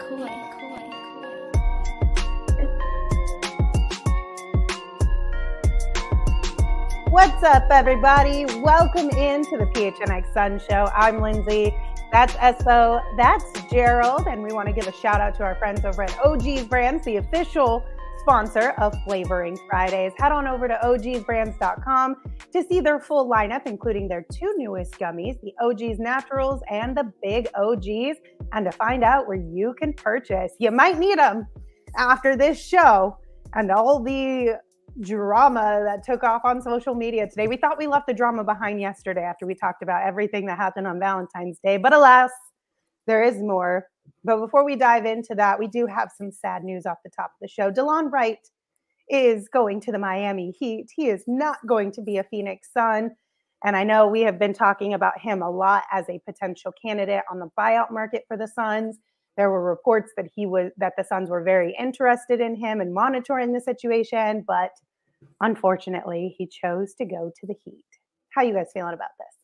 What's up, everybody? Welcome into the PHNX Sun Show. I'm Lindsay. That's Espo. That's Gerald. And we want to give a shout out to our friends over at OG's Brands, the official sponsor of Flavoring Fridays. Head on over to ogsbrands.com to see their full lineup, including their two newest gummies, the OG's Naturals and the Big OGs, and to find out where you can purchase. You might need them after this show and all the drama that took off on social media today. We thought we left the drama behind yesterday after we talked about everything that happened on Valentine's Day, but alas, there is more. But before we dive into that, we do have some sad news off the top of the show. DeLon Wright is going to the Miami Heat. He is not going to be a Phoenix Sun. And I know we have been talking about him a lot as a potential candidate on the buyout market for the Suns. There were reports that the Suns were very interested in him and monitoring the situation, but unfortunately, he chose to go to the Heat. How are you guys feeling about this?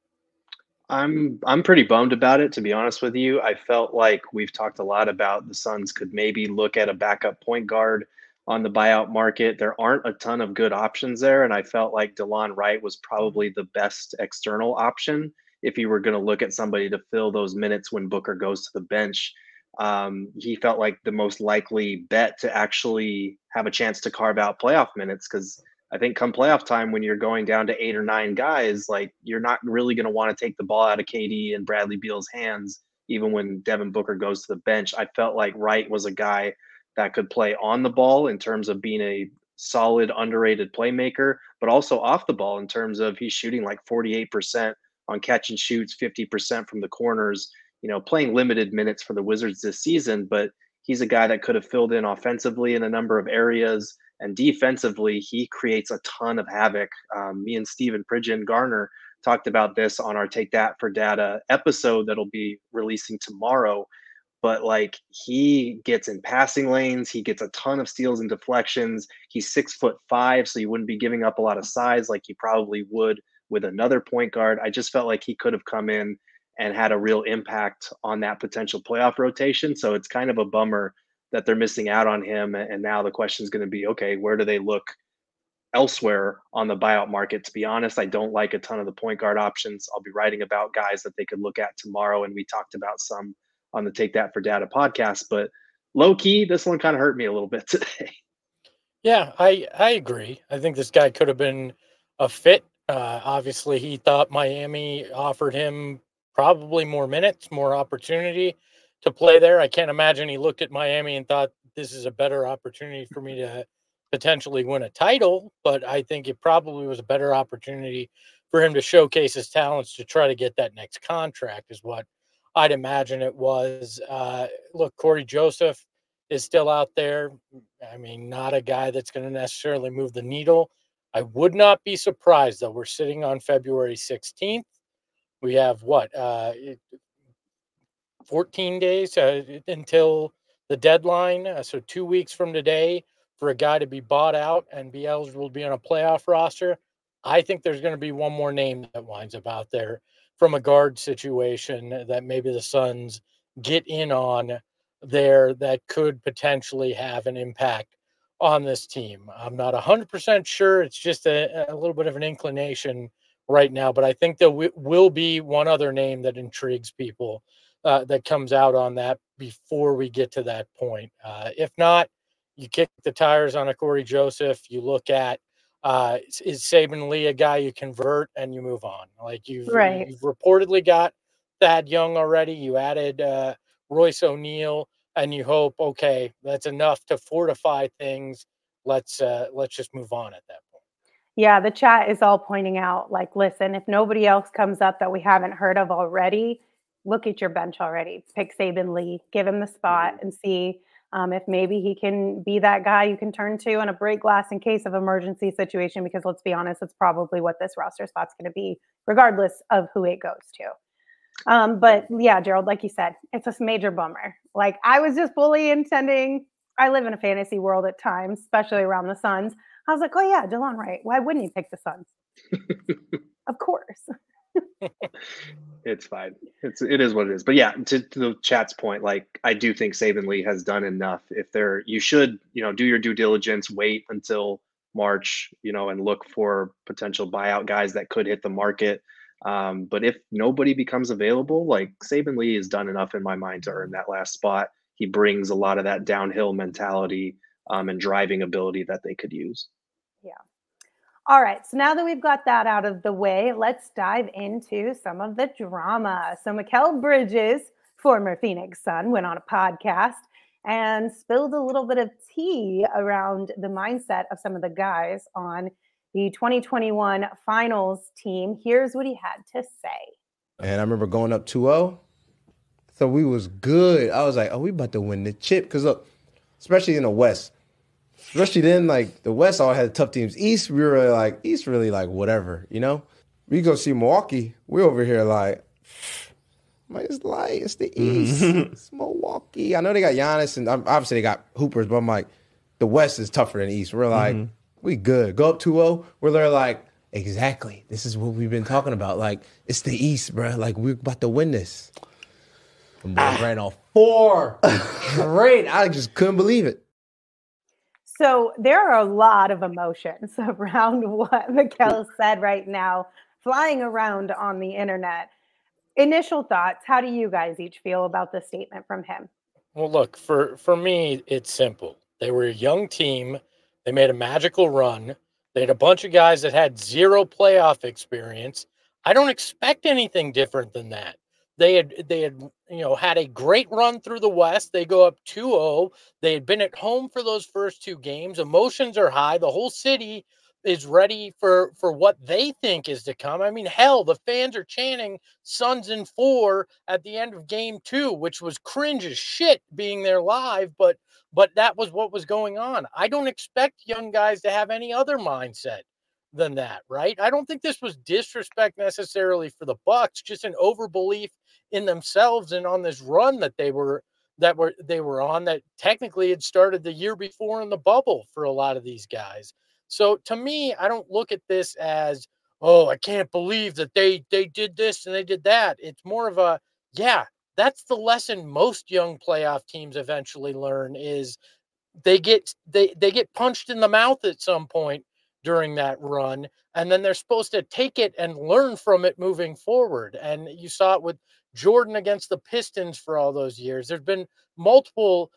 I'm pretty bummed about it, to be honest with you. I felt like we've talked a lot about the Suns could maybe look at a backup point guard on the buyout market. There aren't a ton of good options there, and I felt like DeLon Wright was probably the best external option if you were going to look at somebody to fill those minutes when Booker goes to the bench. He felt like the most likely bet to actually have a chance to carve out playoff minutes, because I think come playoff time, when you're going down to 8 or 9 guys, like, you're not really going to want to take the ball out of KD and Bradley Beal's hands, even when Devin Booker goes to the bench. I felt like Wright was a guy that could play on the ball in terms of being a solid, underrated playmaker, but also off the ball in terms of he's shooting like 48% on catch and shoots, 50% from the corners, playing limited minutes for the Wizards this season, but he's a guy that could have filled in offensively in a number of areas. And defensively, he creates a ton of havoc. Me and Steven Pridgeon Garner talked about this on our Take That for Data episode that'll be releasing tomorrow. But he gets in passing lanes. He gets a ton of steals and deflections. He's 6'5", so you wouldn't be giving up a lot of size like you probably would with another point guard. I just felt like he could have come in and had a real impact on that potential playoff rotation. So it's kind of a bummer that they're missing out on him. And now the question is going to be, okay, where do they look elsewhere on the buyout market? To be honest, I don't like a ton of the point guard options. I'll be writing about guys that they could look at tomorrow. And we talked about some on the Take That for Data podcast, but low key, this one kind of hurt me a little bit today. Yeah, I agree. I think this guy could have been a fit. Obviously, he thought Miami offered him probably more minutes, more opportunity to play there. I can't imagine he looked at Miami and thought this is a better opportunity for me to potentially win a title, but I think it probably was a better opportunity for him to showcase his talents to try to get that next contract is what I'd imagine it was. Look, Corey Joseph is still out there. I mean, not a guy that's going to necessarily move the needle. I would not be surprised, though. We're sitting on February 16th. We have 14 days until the deadline. So 2 weeks from today for a guy to be bought out and be eligible to be on a playoff roster. I think there's going to be one more name that winds up out there from a guard situation that maybe the Suns get in on there that could potentially have an impact on this team. I'm not 100% sure. It's just a little bit of an inclination right now, but I think there will be one other name that intrigues people that comes out on that before we get to that point. If not, you kick the tires on a Corey Joseph. You look at is Saben Lee a guy you convert and you move on? You've reportedly got Thad Young already. You added Royce O'Neal, and you hope, okay, that's enough to fortify things. Let's just move on at that point. Yeah, the chat is all pointing out, listen, if nobody else comes up that we haven't heard of already, look at your bench already. Pick Saben Lee, give him the spot, and see if maybe he can be that guy you can turn to in a break glass in case of emergency situation, because let's be honest, it's probably what this roster spot's going to be, regardless of who it goes to. But yeah, Gerald, like you said, it's a major bummer. I was just fully intending, I live in a fantasy world at times, especially around the Suns. I was like, oh yeah, DeLon Wright. Why wouldn't you pick the Suns? Of course. It's fine. It is what it is. But yeah, to the chat's point, like I do think Saban Lee has done enough. If they're, you should, do your due diligence, wait until March, and look for potential buyout guys that could hit the market. But if nobody becomes available, like Saban Lee has done enough in my mind to earn that last spot. He brings a lot of that downhill mentality and driving ability that they could use. Yeah. All right. So now that we've got that out of the way, let's dive into some of the drama. So Mikal Bridges, former Phoenix Sun, went on a podcast and spilled a little bit of tea around the mindset of some of the guys on the 2021 finals team. Here's what he had to say. And I remember going up 2-0. So we was good. I was like, oh, we about to win the chip. Because look, especially in the West, especially then, like the West all had tough teams. East, we were like, East really like whatever, We go see Milwaukee. We're over here like, it's light. It's the East. It's Milwaukee. I know they got Giannis and obviously they got hoopers, but I'm like, the West is tougher than the East. We're like, we good. Go up 2-0. We're like, exactly. This is what we've been talking about. Like, it's the East, bro. Like, we're about to win this. The boys ran off 4 straight. I just couldn't believe it. So there are a lot of emotions around what Mikal said right now, flying around on the internet. Initial thoughts, how do you guys each feel about the statement from him? Well, look, for me, it's simple. They were a young team. They made a magical run. They had a bunch of guys that had zero playoff experience. I don't expect anything different than that. They had had a great run through the West. They go up 2-0. They had been at home for those first 2 games. Emotions are high. The whole city is ready for what they think is to come. I mean, hell, the fans are chanting Suns in 4 at the end of game 2, which was cringe as shit being there live, but that was what was going on. I don't expect young guys to have any other mindset than that, right? I don't think this was disrespect necessarily for the Bucks, just an overbelief in themselves and on this run that they were on that technically had started the year before in the bubble for a lot of these guys. So to me, I don't look at this as, oh, I can't believe that they did this and they did that. It's more of a, yeah, that's the lesson most young playoff teams eventually learn is they get punched in the mouth at some point during that run, and then they're supposed to take it and learn from it moving forward. And you saw it with Jordan against the Pistons for all those years. There's been multiple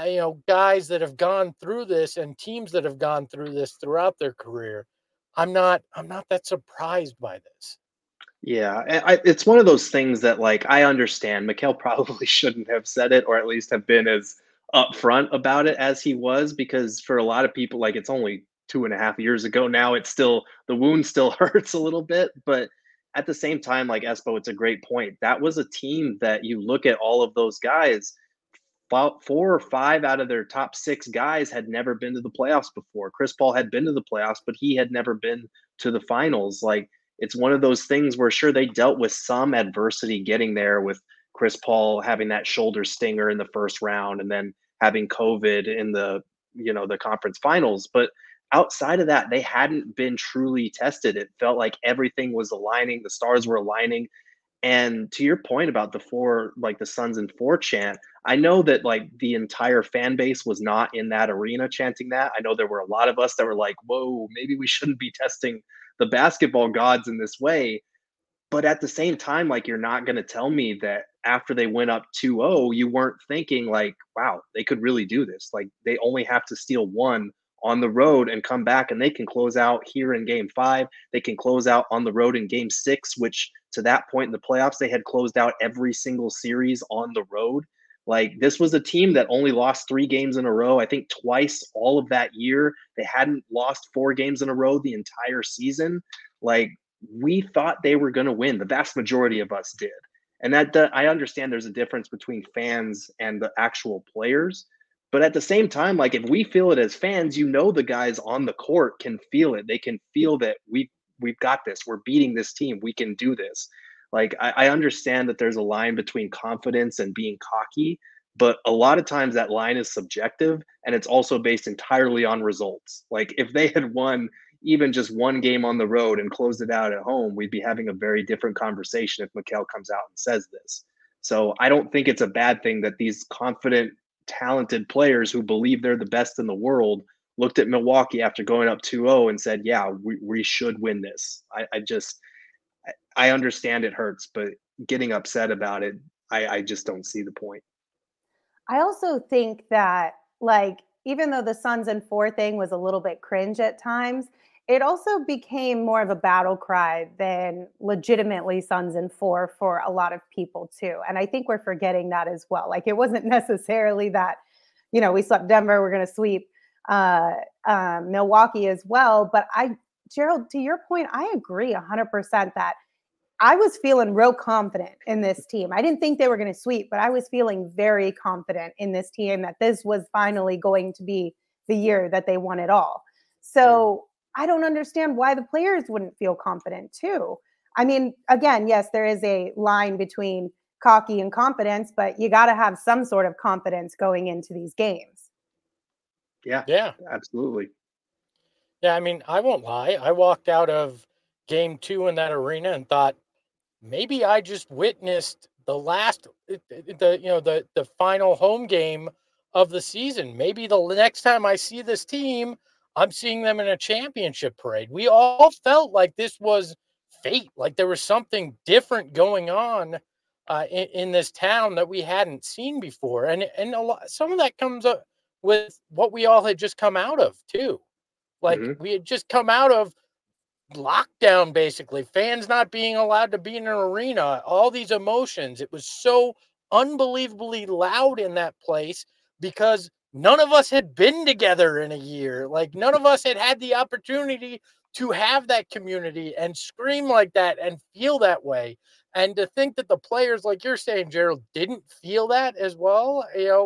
guys that have gone through this and teams that have gone through this throughout their career. I'm not that surprised by this. Yeah, it's one of those things that, like, I understand Mikal probably shouldn't have said it, or at least have been as upfront about it as he was, because for a lot of people, like, it's only 2.5 years ago now. It's still, the wound still hurts a little bit, but at the same time, like Espo, it's a great point. That was a team that you look at all of those guys, about 4 or 5 out of their top 6 guys had never been to the playoffs before. Chris Paul had been to the playoffs, but he had never been to the finals. Like, it's one of those things where, sure, they dealt with some adversity getting there, with Chris Paul having that shoulder stinger in the first round and then having COVID in the conference finals. But outside of that, they hadn't been truly tested. It felt like everything was aligning. The stars were aligning. And to your point about the Suns in 4 chant, I know that, like, the entire fan base was not in that arena chanting that. I know there were a lot of us that were like, whoa, maybe we shouldn't be testing the basketball gods in this way. But at the same time, like, you're not going to tell me that after they went up 2-0, you weren't thinking like, wow, they could really do this. Like, they only have to steal 1 on the road and come back, and they can close out here in game 5. They can close out on the road in game 6, which to that point in the playoffs, they had closed out every single series on the road. Like, this was a team that only lost 3 games in a row. I think twice all of that year. They hadn't lost 4 games in a row the entire season. Like, we thought they were going to win. The vast majority of us did. And that I understand there's a difference between fans and the actual players. But at the same time, like, if we feel it as fans, the guys on the court can feel it. They can feel that we've got this. We're beating this team. We can do this. Like, I understand that there's a line between confidence and being cocky, but a lot of times that line is subjective, and it's also based entirely on results. Like, if they had won, even just one game on the road and closed it out at home, we'd be having a very different conversation if Mikal comes out and says this. So I don't think it's a bad thing that these confident, talented players who believe they're the best in the world looked at Milwaukee after going up 2-0 and said, yeah, we should win this. I understand it hurts, but getting upset about it, I just don't see the point. I also think that, like, even though the Suns in 4 thing was a little bit cringe at times, it also became more of a battle cry than legitimately Suns in 4 for a lot of people too. And I think we're forgetting that as well. Like, it wasn't necessarily that, we swept Denver, we're going to sweep Milwaukee as well. But Gerald, to your point, I agree 100% that I was feeling real confident in this team. I didn't think they were going to sweep, but I was feeling very confident in this team that this was finally going to be the year that they won it all. So I don't understand why the players wouldn't feel confident too. I mean, again, yes, there is a line between cocky and confidence, but you got to have some sort of confidence going into these games. Yeah, absolutely. Yeah, I mean, I won't lie. I walked out of game 2 in that arena and thought, maybe I just witnessed the final home game of the season. Maybe the next time I see this team, I'm seeing them in a championship parade. We all felt like this was fate, like there was something different going on in this town that we hadn't seen before. And some of that comes up with what we all had just come out of too. Like we had just come out of lockdown, basically, fans not being allowed to be in an arena, all these emotions. It was so unbelievably loud in that place because none of us had been together in a year. Like, none of us had had the opportunity to have that community and scream like that and feel that way. And to think that the players, like you're saying, Gerald, didn't feel that as well,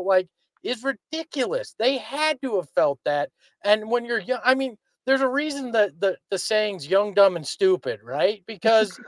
is ridiculous. They had to have felt that. And when you're young, I mean, there's a reason that the saying's young, dumb, and stupid, right? Because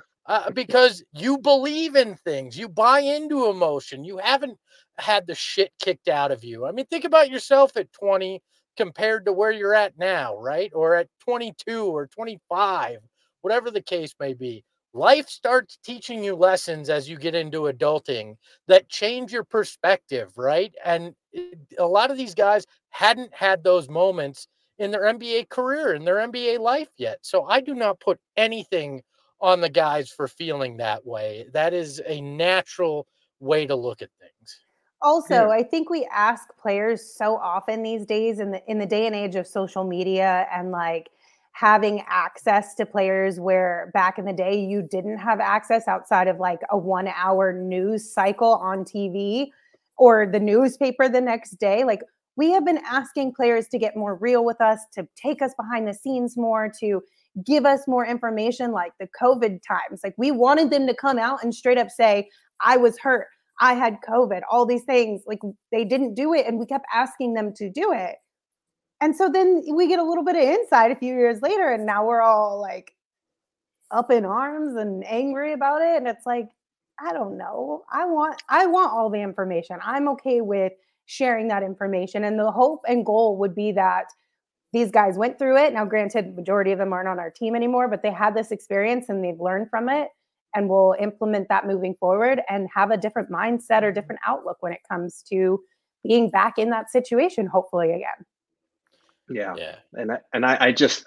you believe in things, you buy into emotion. You haven't had the shit kicked out of you. I mean, think about yourself at 20 compared to where you're at now, right? Or at 22 or 25, whatever the case may be. Life starts teaching you lessons as you get into adulting that change your perspective, right? And a lot of these guys hadn't had those moments in their NBA career, in their NBA life yet. So I do not put anything on the guys for feeling that way. That is a natural way to look at things. Also, I think we ask players so often these days in the day and age of social media and like having access to players where back in the day you didn't have access outside of like a 1 hour news cycle on TV or the newspaper the next day. Like, we have been asking players to get more real with us, to take us behind the scenes more, to give us more information, like the COVID times. Like, we wanted them to come out and straight up say, I was hurt, I had COVID, all these things. Like, they didn't do it, and we kept asking them to do it. And so then we get a little bit of insight a few years later, and now we're all like up in arms and angry about it. And it's like, I don't know. I want all the information. I'm okay with sharing that information. And the hope and goal would be that these guys went through it. Now, granted, majority of them aren't on our team anymore, but they had this experience and they've learned from it, and will implement that moving forward and have a different mindset or different outlook when it comes to being back in that situation, hopefully again. Yeah. And I just,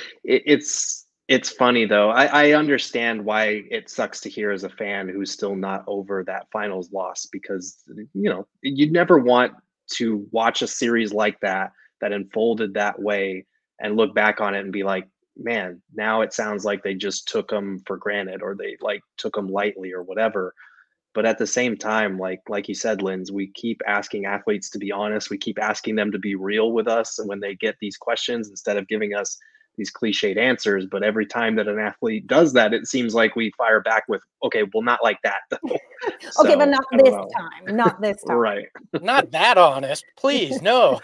it's funny though. I understand why it sucks to hear as a fan who's still not over that finals loss, because, you'd never want to watch a series like that unfolded that way and look back on it and be like, man, now it sounds like they just took them for granted, or they like took them lightly or whatever. But at the same time, like you said, Linz, we keep asking athletes to be honest. We keep asking them to be real with us. And when they get these questions, instead of giving us these cliched answers, but every time that an athlete does that, it seems like we fire back with, okay, well, not like that though. Okay, but not this time. Not this time. Right. Not that honest, please. No.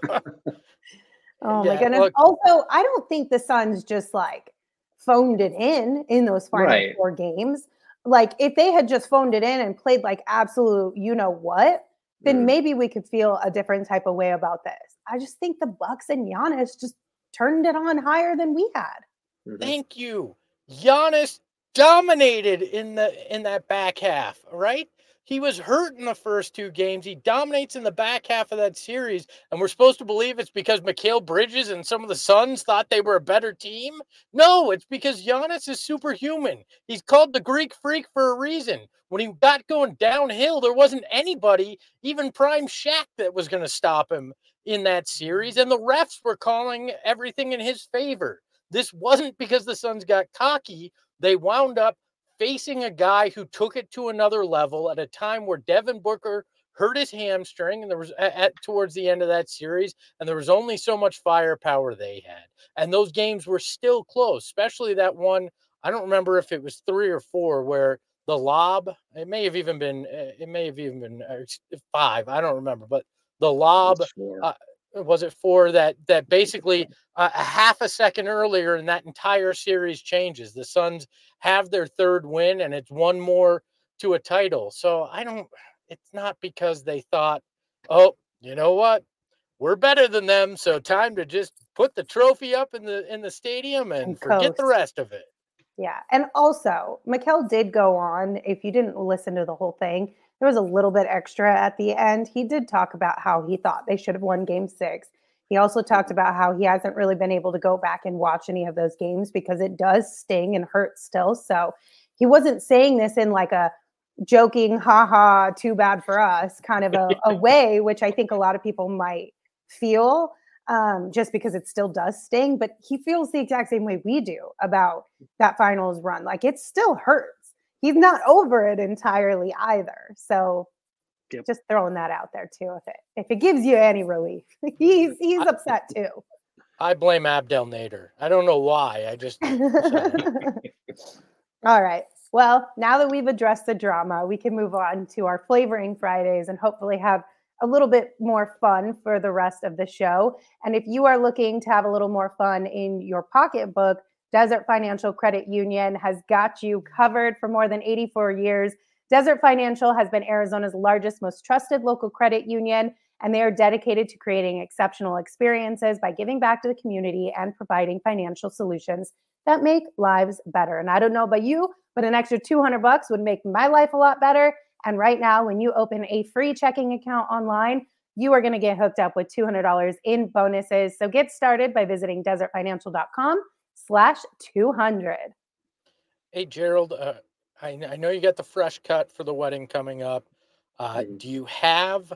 Oh my goodness. Look, also, I don't think the Suns just like phoned it in those final 4 games. Like, if they had just phoned it in and played like absolute, then maybe we could feel a different type of way about this. I just think the Bucks and Giannis just turned it on higher than we had. Thank you. Giannis dominated in that back half, right? He was hurt in the first 2 games. He dominates in the back half of that series, and we're supposed to believe it's because Mikal Bridges and some of the Suns thought they were a better team? No, it's because Giannis is superhuman. He's called the Greek Freak for a reason. When he got going downhill, there wasn't anybody, even prime Shaq, that was going to stop him in that series, and the refs were calling everything in his favor. This wasn't because the Suns got cocky. They wound up facing a guy who took it to another level at a time where Devin Booker hurt his hamstring, and there was towards the end of that series, and there was only so much firepower they had. And those games were still close, especially that one. I don't remember if it was 3 or 4 where the lob, it may have even been 5. I don't remember, but the lob, was it 4 that basically a half a second earlier and that entire series changes. The Suns have their 3rd win, and it's 1 more to a title. So it's not because they thought, oh, you know what? We're better than them, so time to just put the trophy up in the stadium and forget the rest of it. Yeah. And also, Mikal did go on, if you didn't listen to the whole thing, there was a little bit extra at the end. He did talk about how he thought they should have won game 6. He also talked about how he hasn't really been able to go back and watch any of those games because it does sting and hurt still. So he wasn't saying this in like a joking, haha, too bad for us kind of a way, which I think a lot of people might feel just because it still does sting. But he feels the exact same way we do about that finals run. Like, it still hurts. He's not over it entirely either. So just throwing that out there too. If it gives you any relief, he's upset too. I blame Abdel Nader. I don't know why. I just. All right. Well, now that we've addressed the drama, we can move on to our flavoring Fridays and hopefully have a little bit more fun for the rest of the show. And if you are looking to have a little more fun in your pocketbook, Desert Financial Credit Union has got you covered for more than 84 years. Desert Financial has been Arizona's largest, most trusted local credit union, and they are dedicated to creating exceptional experiences by giving back to the community and providing financial solutions that make lives better. And I don't know about you, but an extra $200 would make my life a lot better. And right now, when you open a free checking account online, you are going to get hooked up with $200 in bonuses. So get started by visiting desertfinancial.com/200. Hey, Gerald, I know you got the fresh cut for the wedding coming up. Do you have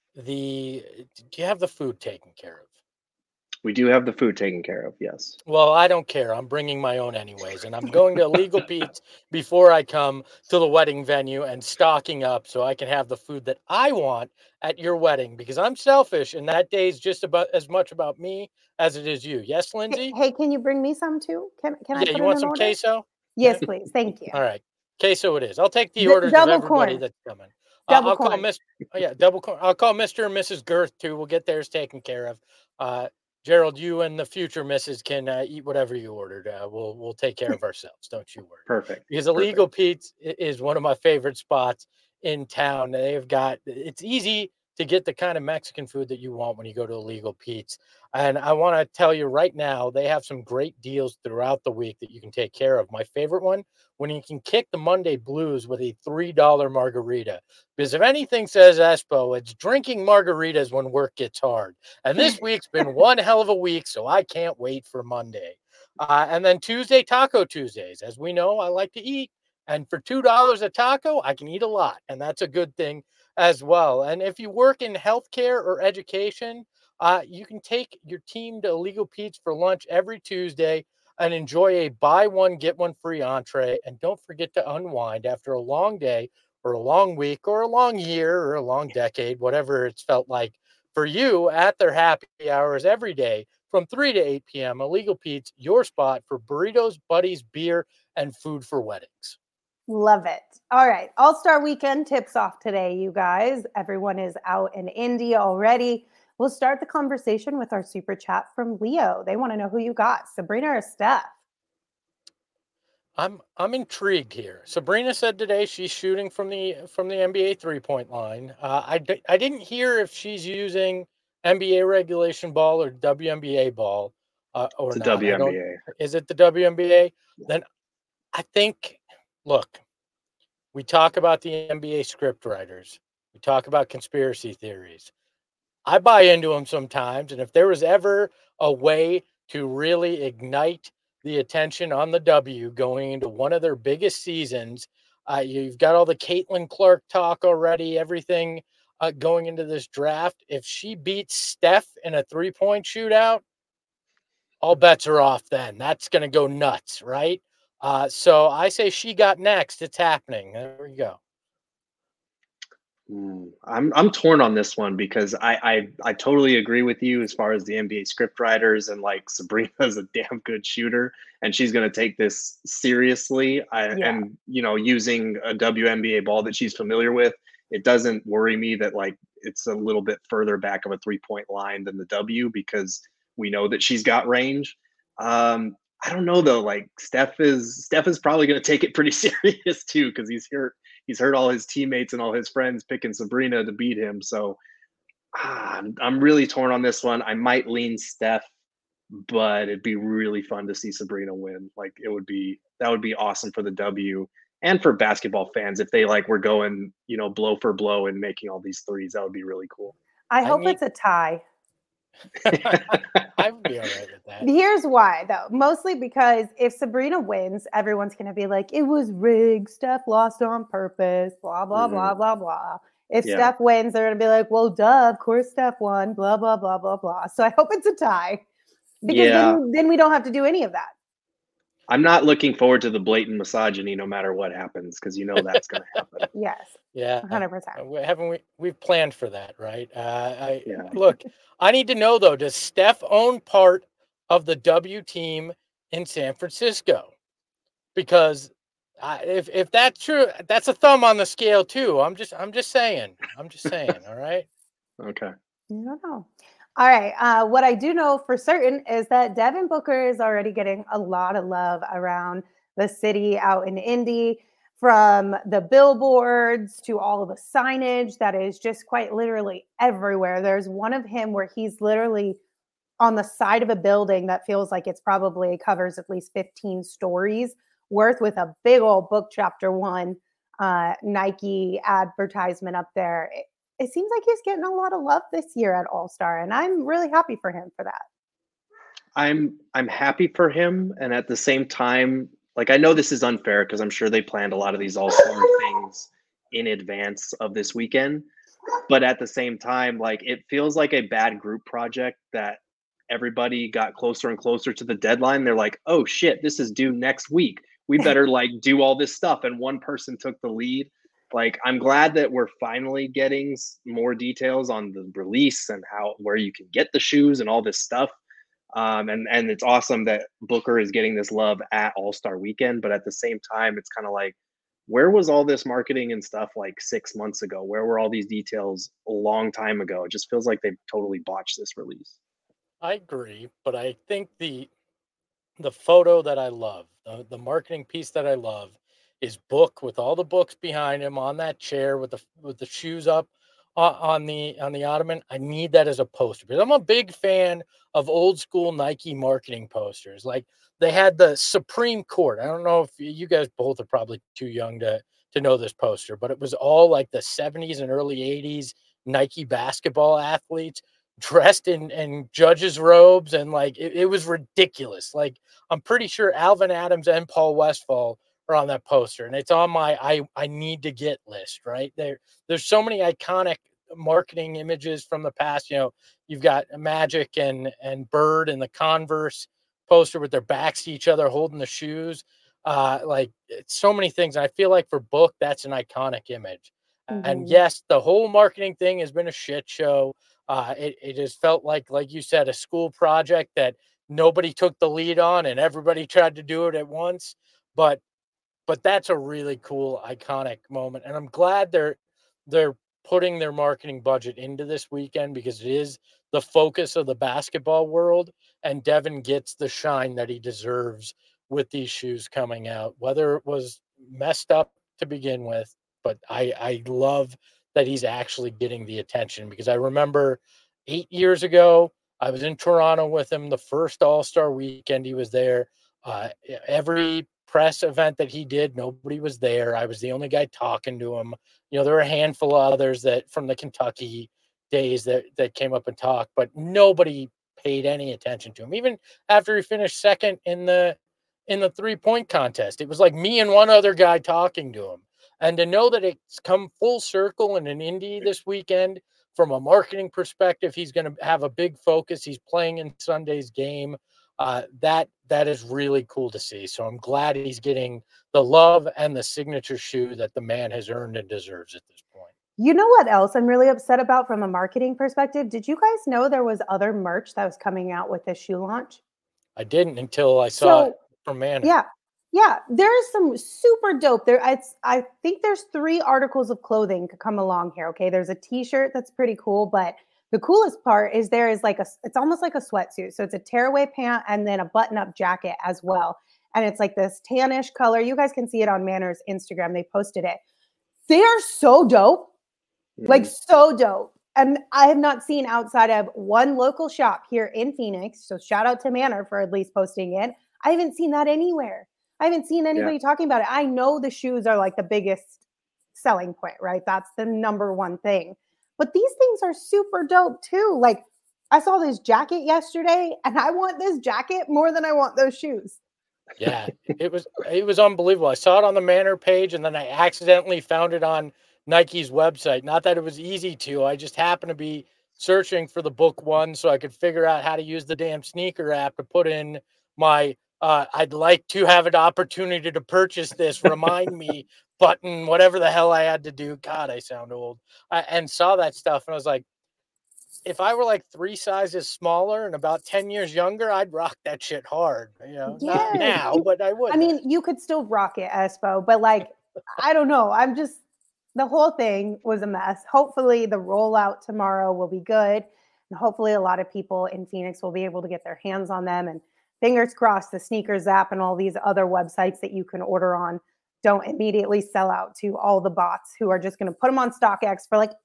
the food taken care of? We do have the food taken care of, yes. Well, I don't care. I'm bringing my own anyways, and I'm going to Illegal Pete's before I come to the wedding venue and stocking up so I can have the food that I want at your wedding, because I'm selfish, and that day is just about as much about me as it is you. Yes, Lindsay? Hey, can you bring me some too? Can I put you want some order? queso? Yes, please. Thank you. All right. Queso it is. I'll take the orders of everybody corn. that's coming. Double corn. Double corn. I'll call Mr. and Mrs. Girth too. We'll get theirs taken care of. Gerald, you and the future missus can eat whatever you ordered. We'll take care of ourselves. Don't you worry. Perfect. Because Illegal Pete's is one of my favorite spots in town. It's easy to get the kind of Mexican food that you want when you go to Illegal Pete's. And I want to tell you right now, they have some great deals throughout the week that you can take care of. My favorite one, when you can kick the Monday blues with a $3 margarita. Because if anything says Espo, it's drinking margaritas when work gets hard. And this week's been one hell of a week, so I can't wait for Monday. And then Tuesday, Taco Tuesdays. As we know, I like to eat. And for $2 a taco, I can eat a lot. And that's a good thing as well. And if you work in healthcare or education, you can take your team to Illegal Pete's for lunch every Tuesday and enjoy a buy one, get one free entree. And don't forget to unwind after a long day or a long week or a long year or a long decade, whatever it's felt like for you, at their happy hours every day from 3 to 8 p.m. Illegal Pete's, your spot for burritos, buddies, beer, and food for weddings. Love it. All right. All-Star Weekend tips off today, you guys. Everyone is out in Indy already. We'll start the conversation with our super chat from Leo. They want to know who you got, Sabrina or Steph. I'm intrigued here. Sabrina said today she's shooting from the NBA 3-point line. I didn't hear if she's using NBA regulation ball or WNBA ball. or It's a not. I don't. WNBA. Is it the WNBA? Then I think. Look, we talk about the NBA script writers. We talk about conspiracy theories. I buy into them sometimes, and if there was ever a way to really ignite the attention on the W going into one of their biggest seasons, you've got all the Caitlin Clark talk already, everything going into this draft. If she beats Steph in a 3-point shootout, all bets are off then. That's going to go nuts, right? So I say she got next. It's happening. There we go. I'm torn on this one because I totally agree with you as far as the NBA script writers, and like Sabrina's a damn good shooter and she's going to take this seriously. And using a WNBA ball that she's familiar with, it doesn't worry me that like it's a little bit further back of a 3-point line than the W, because we know that she's got range. I don't know though. Like Steph is probably going to take it pretty serious too, because he's heard all his teammates and all his friends picking Sabrina to beat him. So I'm really torn on this one. I might lean Steph, but it'd be really fun to see Sabrina win. Like that would be awesome for the W and for basketball fans if they like were going, blow for blow and making all these threes. That would be really cool. I hope it's a tie. I would be all right with that. Here's why, though. Mostly because if Sabrina wins, everyone's going to be like, it was rigged. Steph lost on purpose, blah, blah, blah, blah, blah. If Steph wins, they're going to be like, well, duh, of course Steph won, blah, blah, blah, blah, blah. So I hope it's a tie, because then we don't have to do any of that. I'm not looking forward to the blatant misogyny no matter what happens, because that's going to happen. Yes. Yeah. 100%. We've planned for that, right? Look, I need to know, though, does Steph own part of the W team in San Francisco? Because if that's true, that's a thumb on the scale, too. I'm just saying. All right. Okay. I don't know. All right. What I do know for certain is that Devin Booker is already getting a lot of love around the city out in Indy, from the billboards to all of the signage that is just quite literally everywhere. There's one of him where he's literally on the side of a building that feels like it's probably covers at least 15 stories worth, with a big old Book Chapter 1 Nike advertisement up there. It seems like he's getting a lot of love this year at All-Star, and I'm really happy for him for that. I'm happy for him, and at the same time, like, I know this is unfair because I'm sure they planned a lot of these All-Star things in advance of this weekend, but at the same time, like, it feels like a bad group project that everybody got closer and closer to the deadline. They're like, oh shit, this is due next week. We better like do all this stuff, and one person took the lead. Like, I'm glad that we're finally getting more details on the release and where you can get the shoes and all this stuff. And it's awesome that Booker is getting this love at All-Star Weekend. But at the same time, it's kind of like, where was all this marketing and stuff like 6 months ago? Where were all these details a long time ago? It just feels like they've totally botched this release. I agree, but I think the photo that I love, the marketing piece that I love, is Book with all the books behind him on that chair with the shoes up on the ottoman. I need that as a poster because I'm a big fan of old school Nike marketing posters. Like they had the Supreme Court. I don't know if you guys both are probably too young to know this poster, but it was all like the 70s and early 80s Nike basketball athletes dressed in judges' robes, and like it was ridiculous. Like I'm pretty sure Alvin Adams and Paul Westphal are on that poster, and it's on my I need to get list. Right there's so many iconic marketing images from the past. You've got Magic and Bird and the Converse poster with their backs to each other holding the shoes. Like it's so many things. And I feel like for Book, that's an iconic image. Mm-hmm. And yes, the whole marketing thing has been a shit show. It has felt like you said, a school project that nobody took the lead on and everybody tried to do it at once. But that's a really cool, iconic moment. And I'm glad they're putting their marketing budget into this weekend, because it is the focus of the basketball world. And Devin gets the shine that he deserves with these shoes coming out, whether it was messed up to begin with. But I love that he's actually getting the attention, because I remember 8 years ago, I was in Toronto with him the first All-Star weekend he was there. Every press event that he did, nobody was there. I was the only guy talking to him. There were a handful of others that from the Kentucky days that came up and talked, but nobody paid any attention to him. Even after he finished second in the 3-point contest, it was like me and one other guy talking to him. And to know that it's come full circle in an Indy this weekend, from a marketing perspective, he's going to have a big focus. He's playing in Sunday's game. That is really cool to see. So I'm glad he's getting the love and the signature shoe that the man has earned and deserves at this point. You know what else I'm really upset about from a marketing perspective? Did you guys know there was other merch that was coming out with this shoe launch? I didn't until I saw it from Manor. Yeah, there's some super dope there. I think there's 3 articles of clothing to come along here. Okay, there's a t-shirt that's pretty cool, but the coolest part is there is it's almost like a sweatsuit. So it's a tearaway pant and then a button-up jacket as well. And it's like this tannish color. You guys can see it on Manor's Instagram. They posted it. They are so dope, like so dope. And I have not seen outside of one local shop here in Phoenix. So shout out to Manor for at least posting it. I haven't seen that anywhere. I haven't seen anybody talking about it. I know the shoes are like the biggest selling point, right? That's the number one thing. But these things are super dope too. Like I saw this jacket yesterday and I want this jacket more than I want those shoes. Yeah, it was unbelievable. I saw it on the Manor page and then I accidentally found it on Nike's website. Not that it was easy to. I just happened to be searching for the book one so I could figure out how to use the damn sneaker app to put in my I'd like to have an opportunity to purchase this. Remind me button, whatever the hell I had to do. God, I sound old. And saw that stuff. And I was like, if I were like 3 sizes smaller and about 10 years younger, I'd rock that shit hard. Not now, but I would. I mean, you could still rock it, Espo, but like, I don't know. The whole thing was a mess. Hopefully the rollout tomorrow will be good. And hopefully a lot of people in Phoenix will be able to get their hands on them. And fingers crossed, the Sneakers app and all these other websites that you can order on don't immediately sell out to all the bots who are just going to put them on StockX for like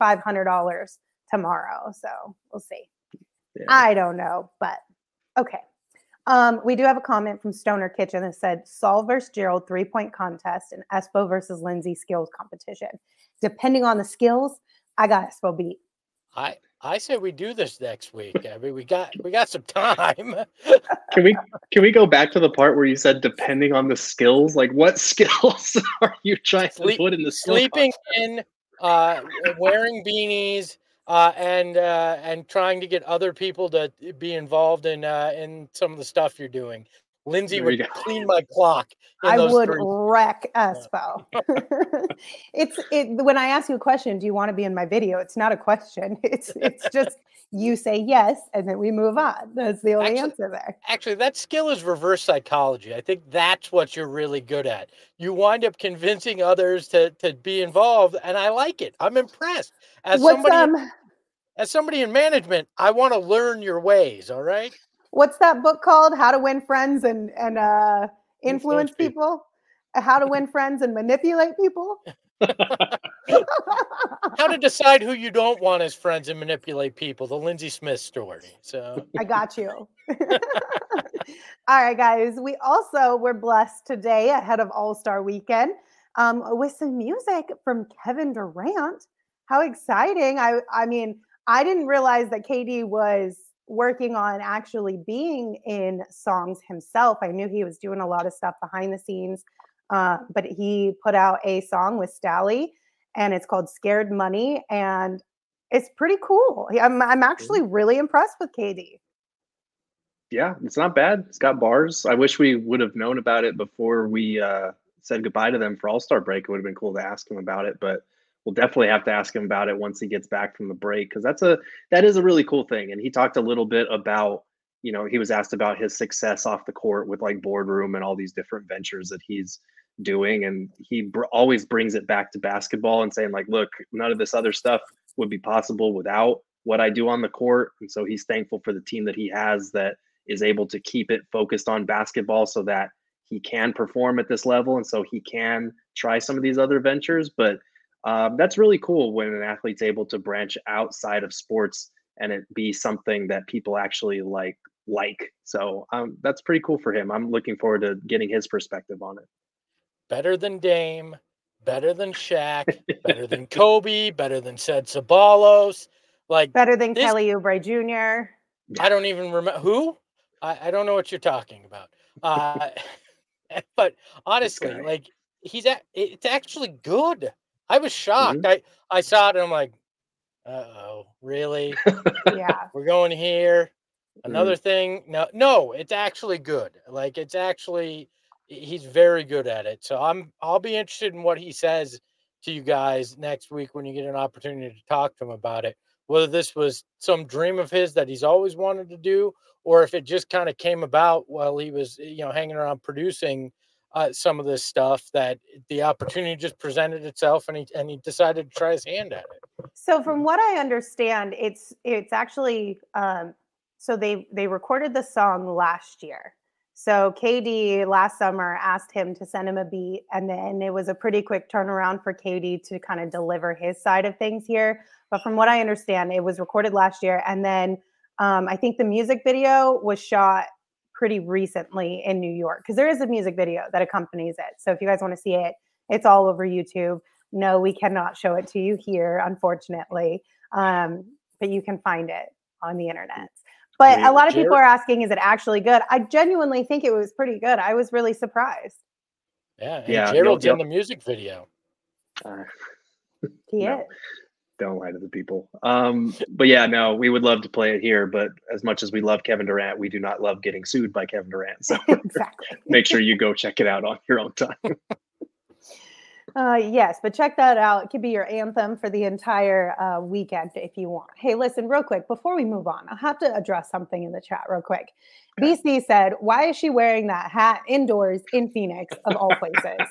$8,500 tomorrow. So we'll see. Yeah. I don't know, but okay. We do have a comment from Stoner Kitchen that said Saul versus Gerald 3-point contest and Espo versus Lindsay skills competition. Depending on the skills, I got Espo beat. I say we do this next week. I mean, we got some time. Can we go back to the part where you said depending on the skills? Like, what skills are you trying to put in the sleeping in, wearing beanies, and trying to get other people to be involved in some of the stuff you're doing. Lindsay would clean my clock. I would wreck Espo. When I ask you a question, do you want to be in my video? It's not a question. It's just you say yes, and then we move on. That's the only answer there. Actually, that skill is reverse psychology. I think that's what you're really good at. You wind up convincing others to be involved, and I like it. I'm impressed. As somebody in management, I want to learn your ways. All right. What's that book called? How to Win Friends and Influence People? How to Win Friends and Manipulate People? How to decide who you don't want as friends and manipulate people. The Lindsay Smith story. So I got you. All right, guys. We also were blessed today ahead of All-Star Weekend with some music from Kevin Durant. How exciting. I mean, I didn't realize that KD was working on actually being in songs himself. I knew he was doing a lot of stuff behind the scenes, but he put out a song with Stally, and it's called Scared Money, and it's pretty cool. I'm actually really impressed with KD. Yeah, it's not bad. It's got bars. I wish we would have known about it before we said goodbye to them for All-Star break. It would have been cool to ask him about it, but we'll definitely have to ask him about it once he gets back from the break, because that is a really cool thing. And he talked a little bit about, he was asked about his success off the court with like Boardroom and all these different ventures that he's doing. And he always brings it back to basketball and saying like, look, none of this other stuff would be possible without what I do on the court. And so he's thankful for the team that he has that is able to keep it focused on basketball so that he can perform at this level. And so he can try some of these other ventures, but that's really cool when an athlete's able to branch outside of sports and it be something that people actually like. So that's pretty cool for him. I'm looking forward to getting his perspective on it. Better than Dame, better than Shaq, better than Kobe, better than Sid Sabalos, like better than Kelly Oubre Jr. I don't even remember who. I don't know what you're talking about. But honestly, like it's actually good. I was shocked. Mm-hmm. I saw it and I'm like, uh-oh, really? Yeah. We're going here. Another thing. No, it's actually good. Like he's very good at it. So I'll be interested in what he says to you guys next week when you get an opportunity to talk to him about it. Whether this was some dream of his that he's always wanted to do, or if it just kind of came about while he was, hanging around producing some of this stuff, that the opportunity just presented itself and he decided to try his hand at it. So from what I understand, it's actually so they recorded the song last year. So KD last summer asked him to send him a beat, and then it was a pretty quick turnaround for KD to kind of deliver his side of things here. But from what I understand, it was recorded last year, and then I think the music video was shot pretty recently in New York, because there is a music video that accompanies it. So if you guys want to see it, it's all over YouTube. No, we cannot show it to you here, unfortunately, but you can find it on the internet. But a lot of people are asking, is it actually good? I genuinely think it was pretty good. I was really surprised. Yeah, and Gerald's in the music video. He is. Don't lie to the people. But yeah, no, we would love to play it here. But as much as we love Kevin Durant, we do not love getting sued by Kevin Durant. So exactly. Make sure you go check it out on your own time. Yes, but check that out. It could be your anthem for the entire weekend if you want. Hey, listen, real quick, before we move on, I have to address something in the chat real quick. Okay. BC said, why is she wearing that hat indoors in Phoenix of all places?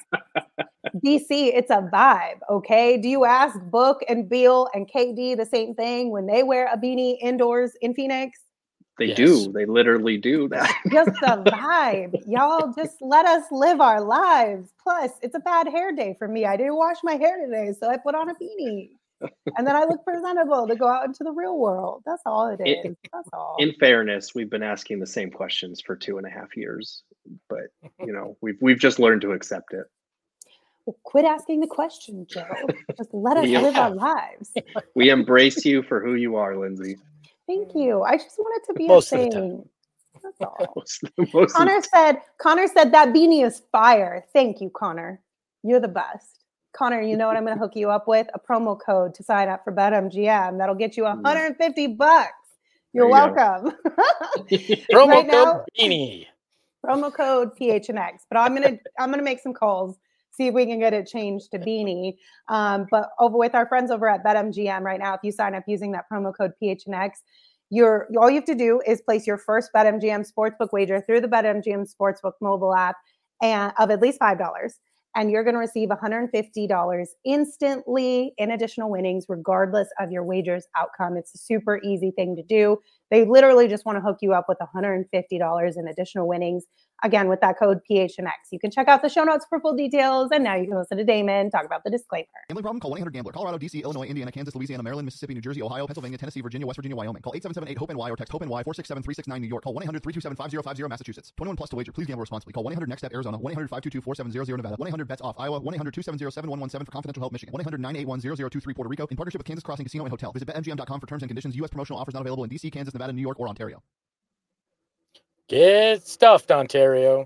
BC, it's a vibe, okay? Do you ask Book and Beal and KD the same thing when they wear a beanie indoors in Phoenix? They do. They literally do that. Just a vibe. Y'all just let us live our lives. Plus, it's a bad hair day for me. I didn't wash my hair today, so I put on a beanie. And then I look presentable to go out into the real world. That's all it is. That's all. In fairness, we've been asking the same questions for 2.5 years, but we've just learned to accept it. Well, quit asking the question, Joe. Just let us live our lives. We embrace you for who you are, Lindsay. Thank you. I just want it to be a thing. That's all. Connor said that beanie is fire. Thank you, Connor. You're the best. Connor, you know what I'm going to hook you up with? A promo code to sign up for BetMGM. That'll get you $150. You're welcome. Promo code beanie. Promo code PHNX. But I'm gonna make some calls, see if we can get it changed to beanie. But over with our friends over at BetMGM right now, if you sign up using that promo code PHNX, all you have to do is place your first BetMGM Sportsbook wager through the BetMGM Sportsbook mobile app and of at least $5. And you're going to receive $150 instantly in additional winnings, regardless of your wager's outcome. It's a super easy thing to do. They literally just want to hook you up with $150 in additional winnings. Again, with that code PHNX. You can check out the show notes for full details. And now you can listen to Damon talk about the disclaimer. Gambling problem? Call 1-800-GAMBLER. Colorado, D.C., Illinois, Indiana, Kansas, Louisiana, Maryland, Mississippi, New Jersey, Ohio, Pennsylvania, Tennessee, Virginia, West Virginia, Wyoming. Call 877-8-HOPE-NY or text HOPE-NY 467-369 New York. Call 1-800-327-5050 Massachusetts. 21 plus to wager. Please gamble responsibly. Call 1-800-NEXT-STEP Arizona. 1-800-522-4700 Nevada. 1-800-BETS-OFF Iowa. 1-800-270-7117 for confidential help Michigan. 1-800-981-0023 Puerto Rico. In partnership with Kansas Crossing Casino and Hotel. Visit BetMGM.com for terms and conditions. U.S. promotional offers not available in D.C., Kansas, Nevada, New York, or Ontario. Get stuffed, Ontario.